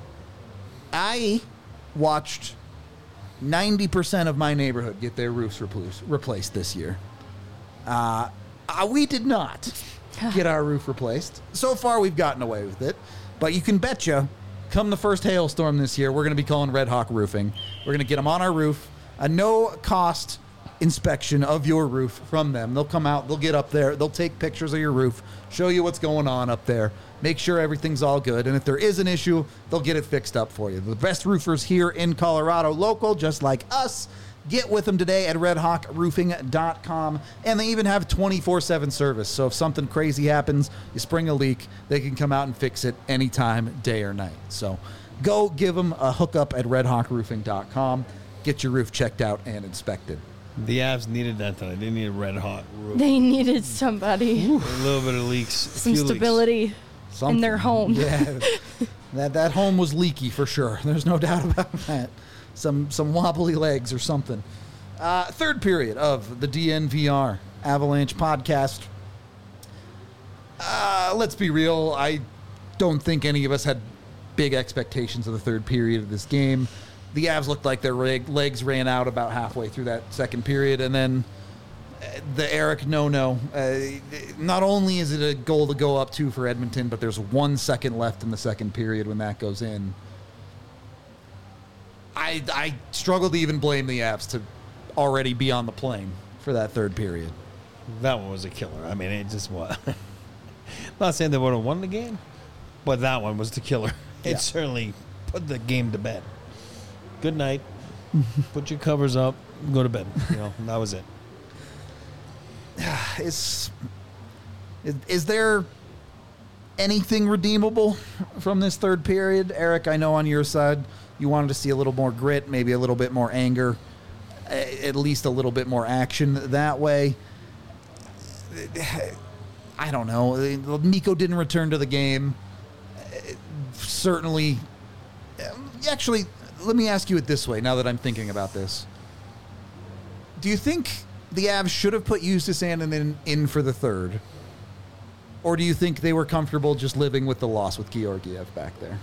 I watched ninety percent of my neighborhood get their roofs repl- replaced this year. Uh, uh, we did not get our roof replaced. So far, we've gotten away with it. But you can betcha, come the first hailstorm this year, we're going to be calling Red Hawk Roofing. We're going to get them on our roof. A no-cost inspection of your roof from them. They'll come out, they'll get up there, they'll take pictures of your roof, show you what's going on up there, make sure everything's all good, and if there is an issue, they'll get it fixed up for you. The best roofers here in Colorado, local, just like us. Get with them today at red hawk roofing dot com, and they even have twenty-four seven service, so if something crazy happens, you spring a leak, they can come out and fix it anytime, day or night. So go give them a hookup at red hawk roofing dot com. Get your roof checked out and inspected. The Avs needed that tonight. They needed red hot roof. They needed somebody, A little bit of leaks. some few leaks. stability Something. in their home. Yeah, that that home was leaky for sure. There's no doubt about that. Some some wobbly legs or something. Uh, third period of the D N V R Avalanche podcast. Uh, let's be real. I don't think any of us had big expectations of the third period of this game. The Avs looked like their leg, legs ran out about halfway through that second period, and then uh, the Eric no-no. Uh, not only is it a goal to go up two for Edmonton, but there's one second left in the second period when that goes in. I I struggle to even blame the Avs to already be on the plane for that third period. That one was a killer. I mean, it just was. Not saying they would have won the game, but that one was the killer. It Yeah. certainly put the game to bed. Good night. Put your covers up. Go to bed. You know, that was it. Is, is is there anything redeemable from this third period? Eric, I know on your side you wanted to see a little more grit, maybe a little bit more anger, a- at least a little bit more action that way. I don't know. Mikko didn't return to the game. Certainly. Actually, let me ask you it this way now that I'm thinking about this. Do you think the Avs should have put Justus Annunen in, in for the third? Or do you think they were comfortable just living with the loss with Georgiev back there?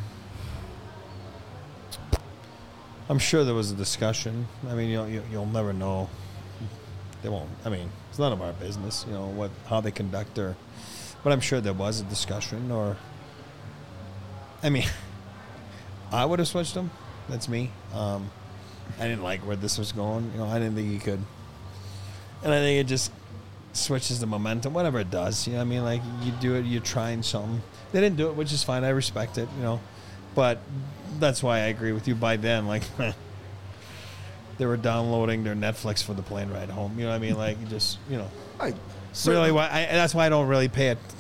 I'm sure there was a discussion. I mean, you'll, you- you'll never know. They won't. I mean, it's none of our business, you know, what how they conduct their. But I'm sure there was a discussion, or. I mean, I would have switched them. That's me. Um, I didn't like where this was going. You know, I didn't think he could. And I think it just switches the momentum, whatever it does. You know what I mean? Like, you do it, you're trying something. They didn't do it, which is fine. I respect it, you know. But that's why I agree with you. By then, like, they were downloading their Netflix for the plane ride home. You know what I mean? Like, you just, you know. I, really why I, that's why I don't really pay it.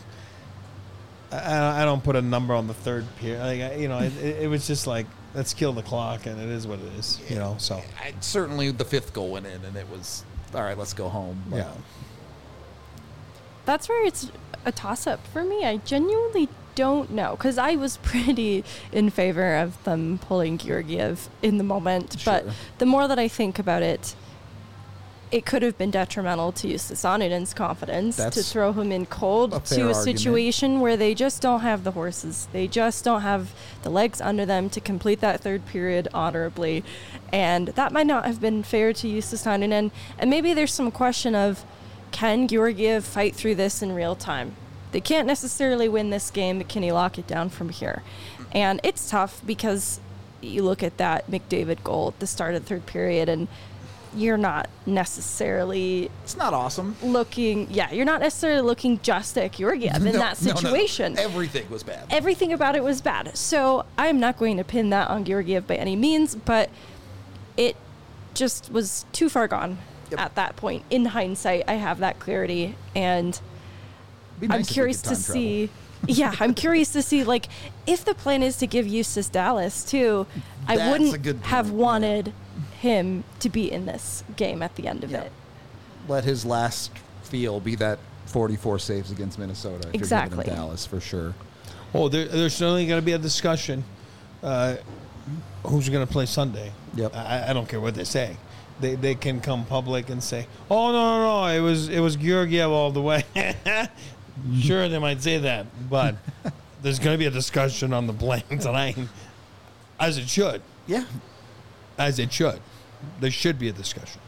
I, I don't put a number on the third period. Like I, you know, it, it, it was just like let's kill the clock, and it is what it is. You know, so I, certainly the fifth goal went in, and it was all right. Let's go home. But yeah. That's where it's a toss-up for me. I genuinely don't know, because I was pretty in favor of them pulling Georgiev in the moment. Sure. But the more that I think about it, it could have been detrimental to Justus Anninen's confidence That's to throw him in cold a fair to a argument. situation where they just don't have the horses. They just don't have the legs under them to complete that third period honorably. And that might not have been fair to Justus Anninen. And maybe there's some question of, can Georgiev fight through this in real time? They can't necessarily win this game, but can he lock it down from here? And it's tough because you look at that McDavid goal at the start of the third period, and you're not necessarily it's not awesome. looking, yeah, you're not necessarily looking just at Georgiev in No, that no, no. situation. Everything was bad. Everything about it was bad. So I'm not going to pin that on Georgiev by any means, but it just was too far gone Yep. at that point. In hindsight, I have that clarity, and Be nice I'm if we curious could to time see. yeah, I'm curious to see, like, if the plan is to give Justus Dallas too, That's I a wouldn't good have point, wanted him to be in this game at the end of Yeah. it. Let his last feel be that forty-four saves against Minnesota. If you're giving him Exactly. Dallas for sure. Oh, there, there's certainly going to be a discussion. Uh, who's going to play Sunday? Yep. I, I don't care what they say. They they can come public and say, "Oh no, no, no, it was it was Georgiev all the way." Sure, they might say that, but there's going to be a discussion on the blame tonight, as it should, Yeah, as it should. There should be a discussion.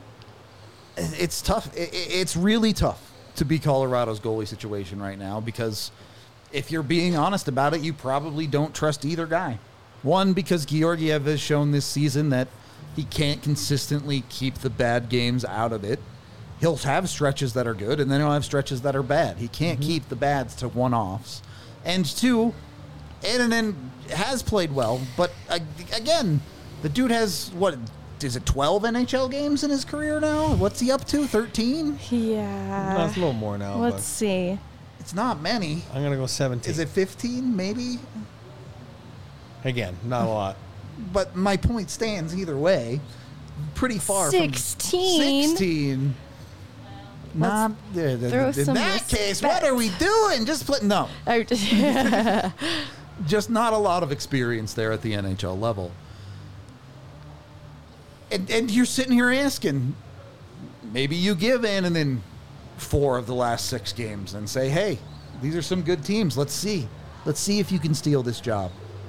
it's tough. I- I- It's really tough to be Colorado's goalie situation right now because if you're being honest about it, you probably don't trust either guy. One, because Georgiev has shown this season that he can't consistently keep the bad games out of it. He'll have stretches that are good, and then he'll have stretches that are bad. He can't keep the bads to one-offs. And two, Annunen has played well, but uh, again, the dude has, what, is it twelve N H L games in his career now? What's he up to, thirteen? Yeah. No, it's a little more now. Let's But see. It's not many. I'm going to go seventeen. Is it fifteen, maybe? Again, not a lot. But my point stands either way. Pretty far sixteen. from sixteen. Not uh, throw in some that case. What are we doing? Just play, no, I just- just not a lot of experience there at the N H L level. And and you're sitting here asking, maybe you give in and then four of the last six games and say, hey, these are some good teams. Let's see, let's see if you can steal this job.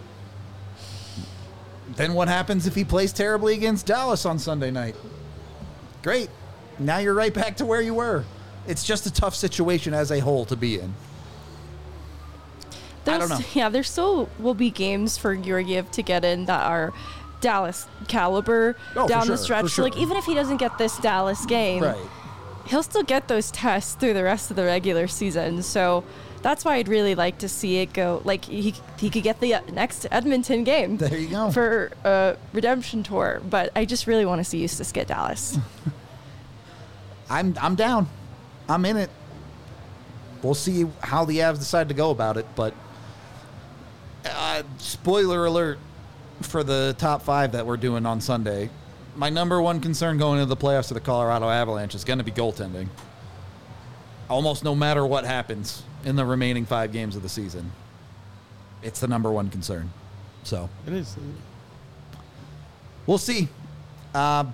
Then what happens if he plays terribly against Dallas on Sunday night? Great. Now you're right back to where you were. It's just a tough situation as a whole to be in. I don't know. Yeah, there still will be games for Georgiev to get in that are Dallas caliber Oh, for down sure, the stretch. for sure. Like, even if he doesn't get this Dallas game, Right. he'll still get those tests through the rest of the regular season. So that's why I'd really like to see it go. Like, he he could get the uh, next Edmonton game There you go. for a redemption tour. But I just really want to see Justus get Dallas. I'm I'm down. I'm in it. We'll see how the Avs decide to go about it, but uh, spoiler alert for the top five that we're doing on Sunday. My number one concern going into the playoffs to the Colorado Avalanche is going to be goaltending. Almost no matter what happens in the remaining five games of the season, it's the number one concern. So It is. we'll see. Uh,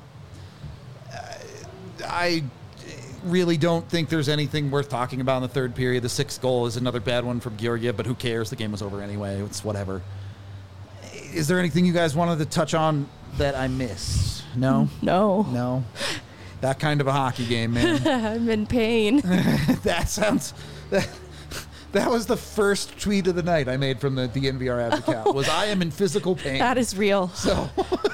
I really don't think there's anything worth talking about in the third period. The sixth goal is another bad one from Georgiev, but who cares? The game was over anyway. It's whatever. Is there anything you guys wanted to touch on that I missed? No? No. No? That kind of a hockey game, man. I'm in pain. That sounds... That, that was the first tweet of the night I made from the, the N V R Avs account, was I am in physical pain. That is real. So...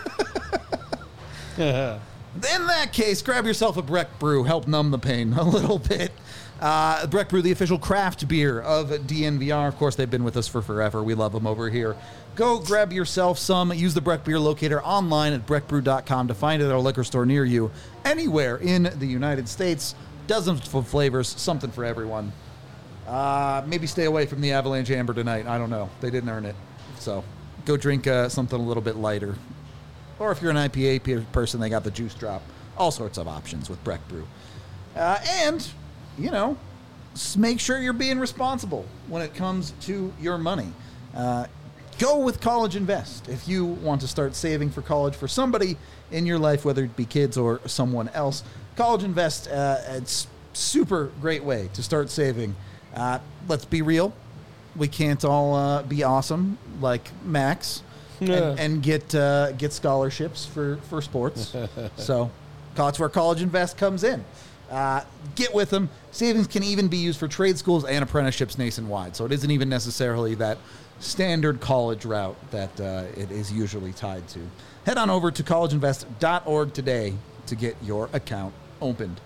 Yeah. In that case, grab yourself a Breck Brew. Help numb the pain a little bit. Uh, Breck Brew, the official craft beer of D N V R. Of course, they've been with us for forever. We love them over here. Go grab yourself some. Use the Breck Beer Locator online at breck brew dot com to find it at a liquor store near you anywhere in the United States. dozens of flavors, something for everyone. Uh, maybe stay away from the Avalanche Amber tonight. I don't know. They didn't earn it. So go drink uh, something a little bit lighter. Or if you're an I P A pe- person, they got the Juice Drop. All sorts of options with Breck Brew. Uh, and, you know, s- make sure you're being responsible when it comes to your money. Uh, go with College Invest. If you want to start saving for college for somebody in your life, whether it be kids or someone else, College Invest, uh, it's super great way to start saving. Uh, let's be real. We can't all uh, be awesome like Max and, Yeah. and get uh, get scholarships for, for sports. So that's where College Invest comes in. Uh, get with them. Savings can even be used for trade schools and apprenticeships nationwide. So it isn't even necessarily that standard college route that uh, it is usually tied to. Head on over to college invest dot org today to get your account opened.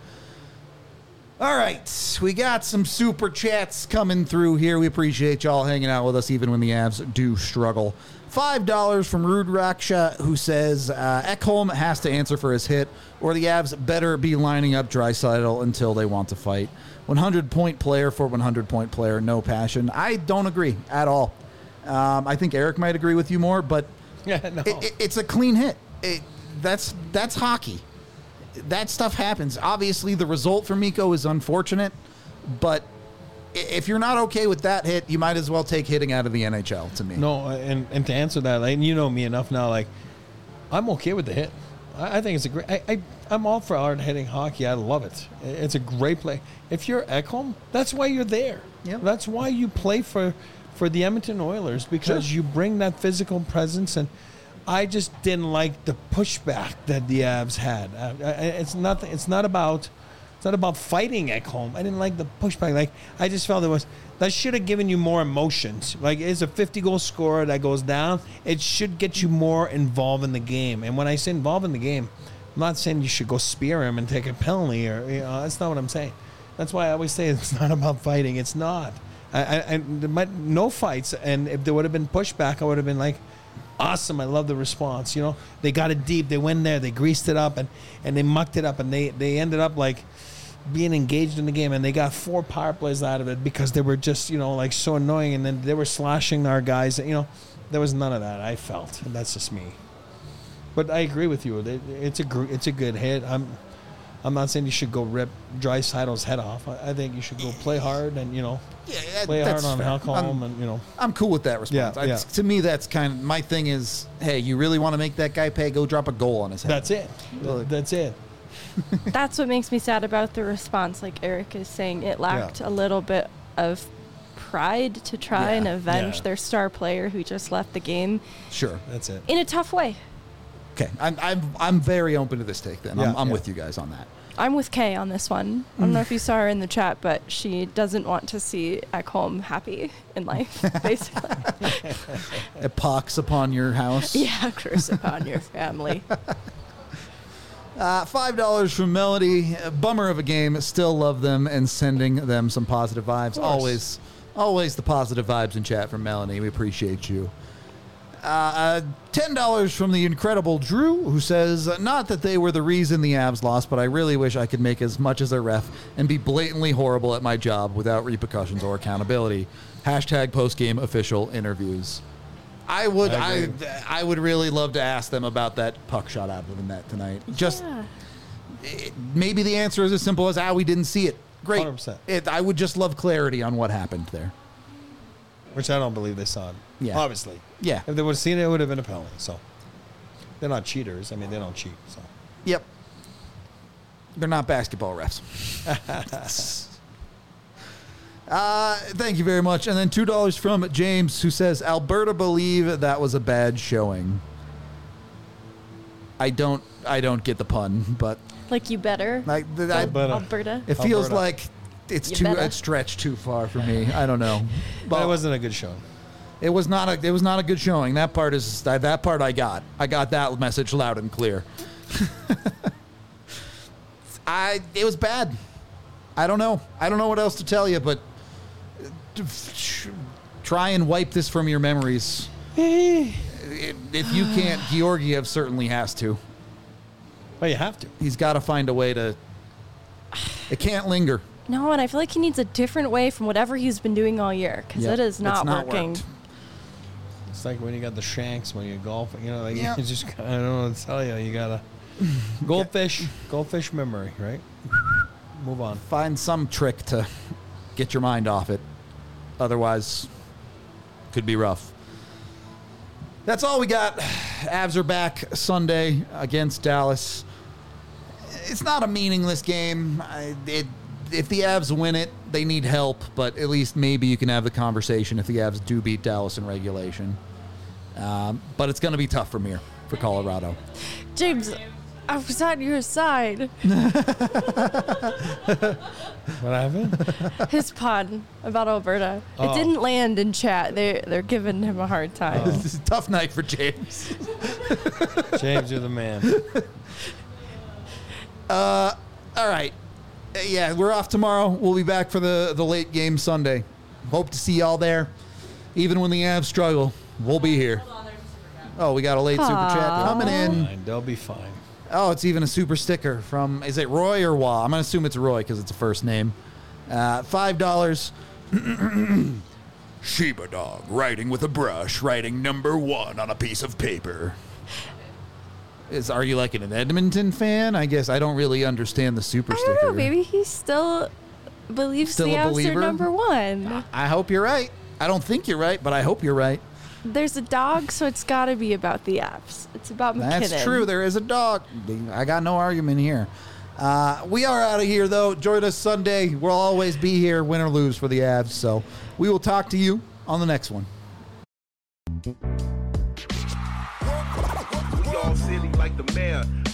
All right, we got some super chats coming through here. We appreciate y'all hanging out with us even when the Avs do struggle. five dollars from Rude Raksha, who says uh, Ekholm has to answer for his hit, or the Avs better be lining up Draisaitl until they want to fight. one hundred point player for one hundred point player, no passion. I don't agree at all. Um, I think Eric might agree with you more, but Yeah, no. it, it, it's a clean hit. It, that's that's hockey. That stuff happens. Obviously, the result for Mikko is unfortunate, but i- if you're not okay with that hit, you might as well take hitting out of the N H L, to me. No, and, and to answer that, like, you know me enough now, like, I'm okay with the hit. I, I think it's a great, I, I, I'm all for hard hitting hockey. I love it. It's a great play. If you're Ekholm, that's why you're there. Yep. That's why you play for, for the Edmonton Oilers, because Sure. you bring that physical presence. And I just didn't like the pushback that the Avs had. Uh, I- I- it's nothing. It's not about. It's not about fighting Ekholm. I didn't like the pushback. Like, I just felt it was that should have given you more emotions. Like, it's a fifty goal scorer that goes down. It should get you more involved in the game. And when I say involved in the game, I'm not saying you should go spear him and take a penalty, or, you know, that's not what I'm saying. That's why I always say it's not about fighting. It's not. I, I, I there might, no fights, and if there would have been pushback, I would have been like, awesome, I love the response. You know, they got it deep. They went there. They greased it up, and, and they mucked it up, and they, they ended up like being engaged in the game, and they got four power plays out of it because they were just, you know, like so annoying, and then they were slashing our guys. You know, there was none of that. I felt, and that's just me. But I agree with you. It- It's a gr- it's a good hit. I'm I'm not saying you should go rip Draisaitl's head off. I I think you should go play hard and, you know, Yeah, play hard that's on fair. Halcom, I'm, and, you know. I'm cool with that response. Yeah, I- yeah. To me, that's kind of my thing is, hey, you really want to make that guy pay? Go drop a goal on his head. That's it. Well, That's it. That's what makes me sad about the response. Like Eric is saying, it lacked Yeah. a little bit of pride to try Yeah. and avenge Yeah. their star player who just left the game Sure. That's it. in a tough way. Okay. I'm, I'm, I'm very open to this take then. I'm, Yeah, I'm yeah. with you guys on that. I'm with Kay on this one. I don't know if you saw her in the chat, but she doesn't want to see Ekholm happy in life, basically. A pox upon your house. Yeah, curse upon your family. Uh, Five dollars from Melody. A bummer of a game. Still love them and sending them some positive vibes. course. Always, always the positive vibes in chat from Melanie. We appreciate you. Uh, ten dollars from the incredible Drew, who says, not that they were the reason the Avs lost, but I really wish I could make as much as a ref and be blatantly horrible at my job without repercussions or accountability. Hashtag post-game official interviews. I would, I I, agree. I, would really love to ask them about that puck shot out of the net tonight. Just Yeah. it- maybe the answer is as simple as, ah, we didn't see it. Great. one hundred percent. It, I would just love clarity on what happened there. Which I don't believe they saw it. Yeah. Obviously. Yeah. If they would have seen it, it would have been a penalty. So they're not cheaters. I mean, they don't cheat. So Yep. They're not basketball refs. uh, thank you very much. And then two dollars from James, who says, Alberta believe that was a bad showing. I don't I don't get the pun, but Like, you better. I, I, Alberta. Alberta. it feels Alberta. like it's You too better. it's stretched too far for me. I don't know. but it wasn't a good show. It was not a it was not a good showing. That part is that, that part I got. I got that message loud and clear. I it was bad. I don't know. I don't know what else to tell you, but try and wipe this from your memories. If you can't, Georgiev certainly has to. Well, you have to. He's got to find a way to It can't linger. No, and I feel like he needs a different way from whatever he's been doing all year because Yep, it is not, it's not working. worked. It's like when you got the shanks when you're golfing. You know, like Yeah. you just I don't know what to tell you. You gotta goldfish, goldfish memory, right? Move on. Find some trick to get your mind off it. Otherwise, could be rough. That's all we got. Avs are back Sunday against Dallas. It's not a meaningless game. I, it, if the Avs win it, they need help, but at least maybe you can have the conversation if the Avs do beat Dallas in regulation. Um, but it's going to be tough from here for Colorado. James, I was on your side. What happened? His pun about Alberta. Oh. It didn't land in chat. They they're giving him a hard time. Oh. This is a tough night for James. James, you're the man. Uh, all right. Uh, Yeah, we're off tomorrow. We'll be back for the, the late game Sunday. Hope to see y'all there. Even when the Avs struggle, we'll be here. Oh, we got a late super chat Aw. coming in. Fine, they'll be fine. Oh, it's even a super sticker from, is it Roy or Wah? I'm going to assume it's Roy because it's a first name. Uh, five dollars. Sheba dog writing with a brush, writing number one on a piece of paper. Is Are you like an Edmonton fan? I guess I don't really understand the super I sticker. don't know. Maybe he still believes Still the a Avs believer? are number one. I hope you're right. I don't think you're right, but I hope you're right. There's a dog, so it's got to be about the Avs. It's about McKinnon. That's true. There is a dog. I got no argument here. Uh, we are out of here, though. Join us Sunday. We'll always be here, win or lose, for the Avs. So we will talk to you on the next one. We all silly like the mayor.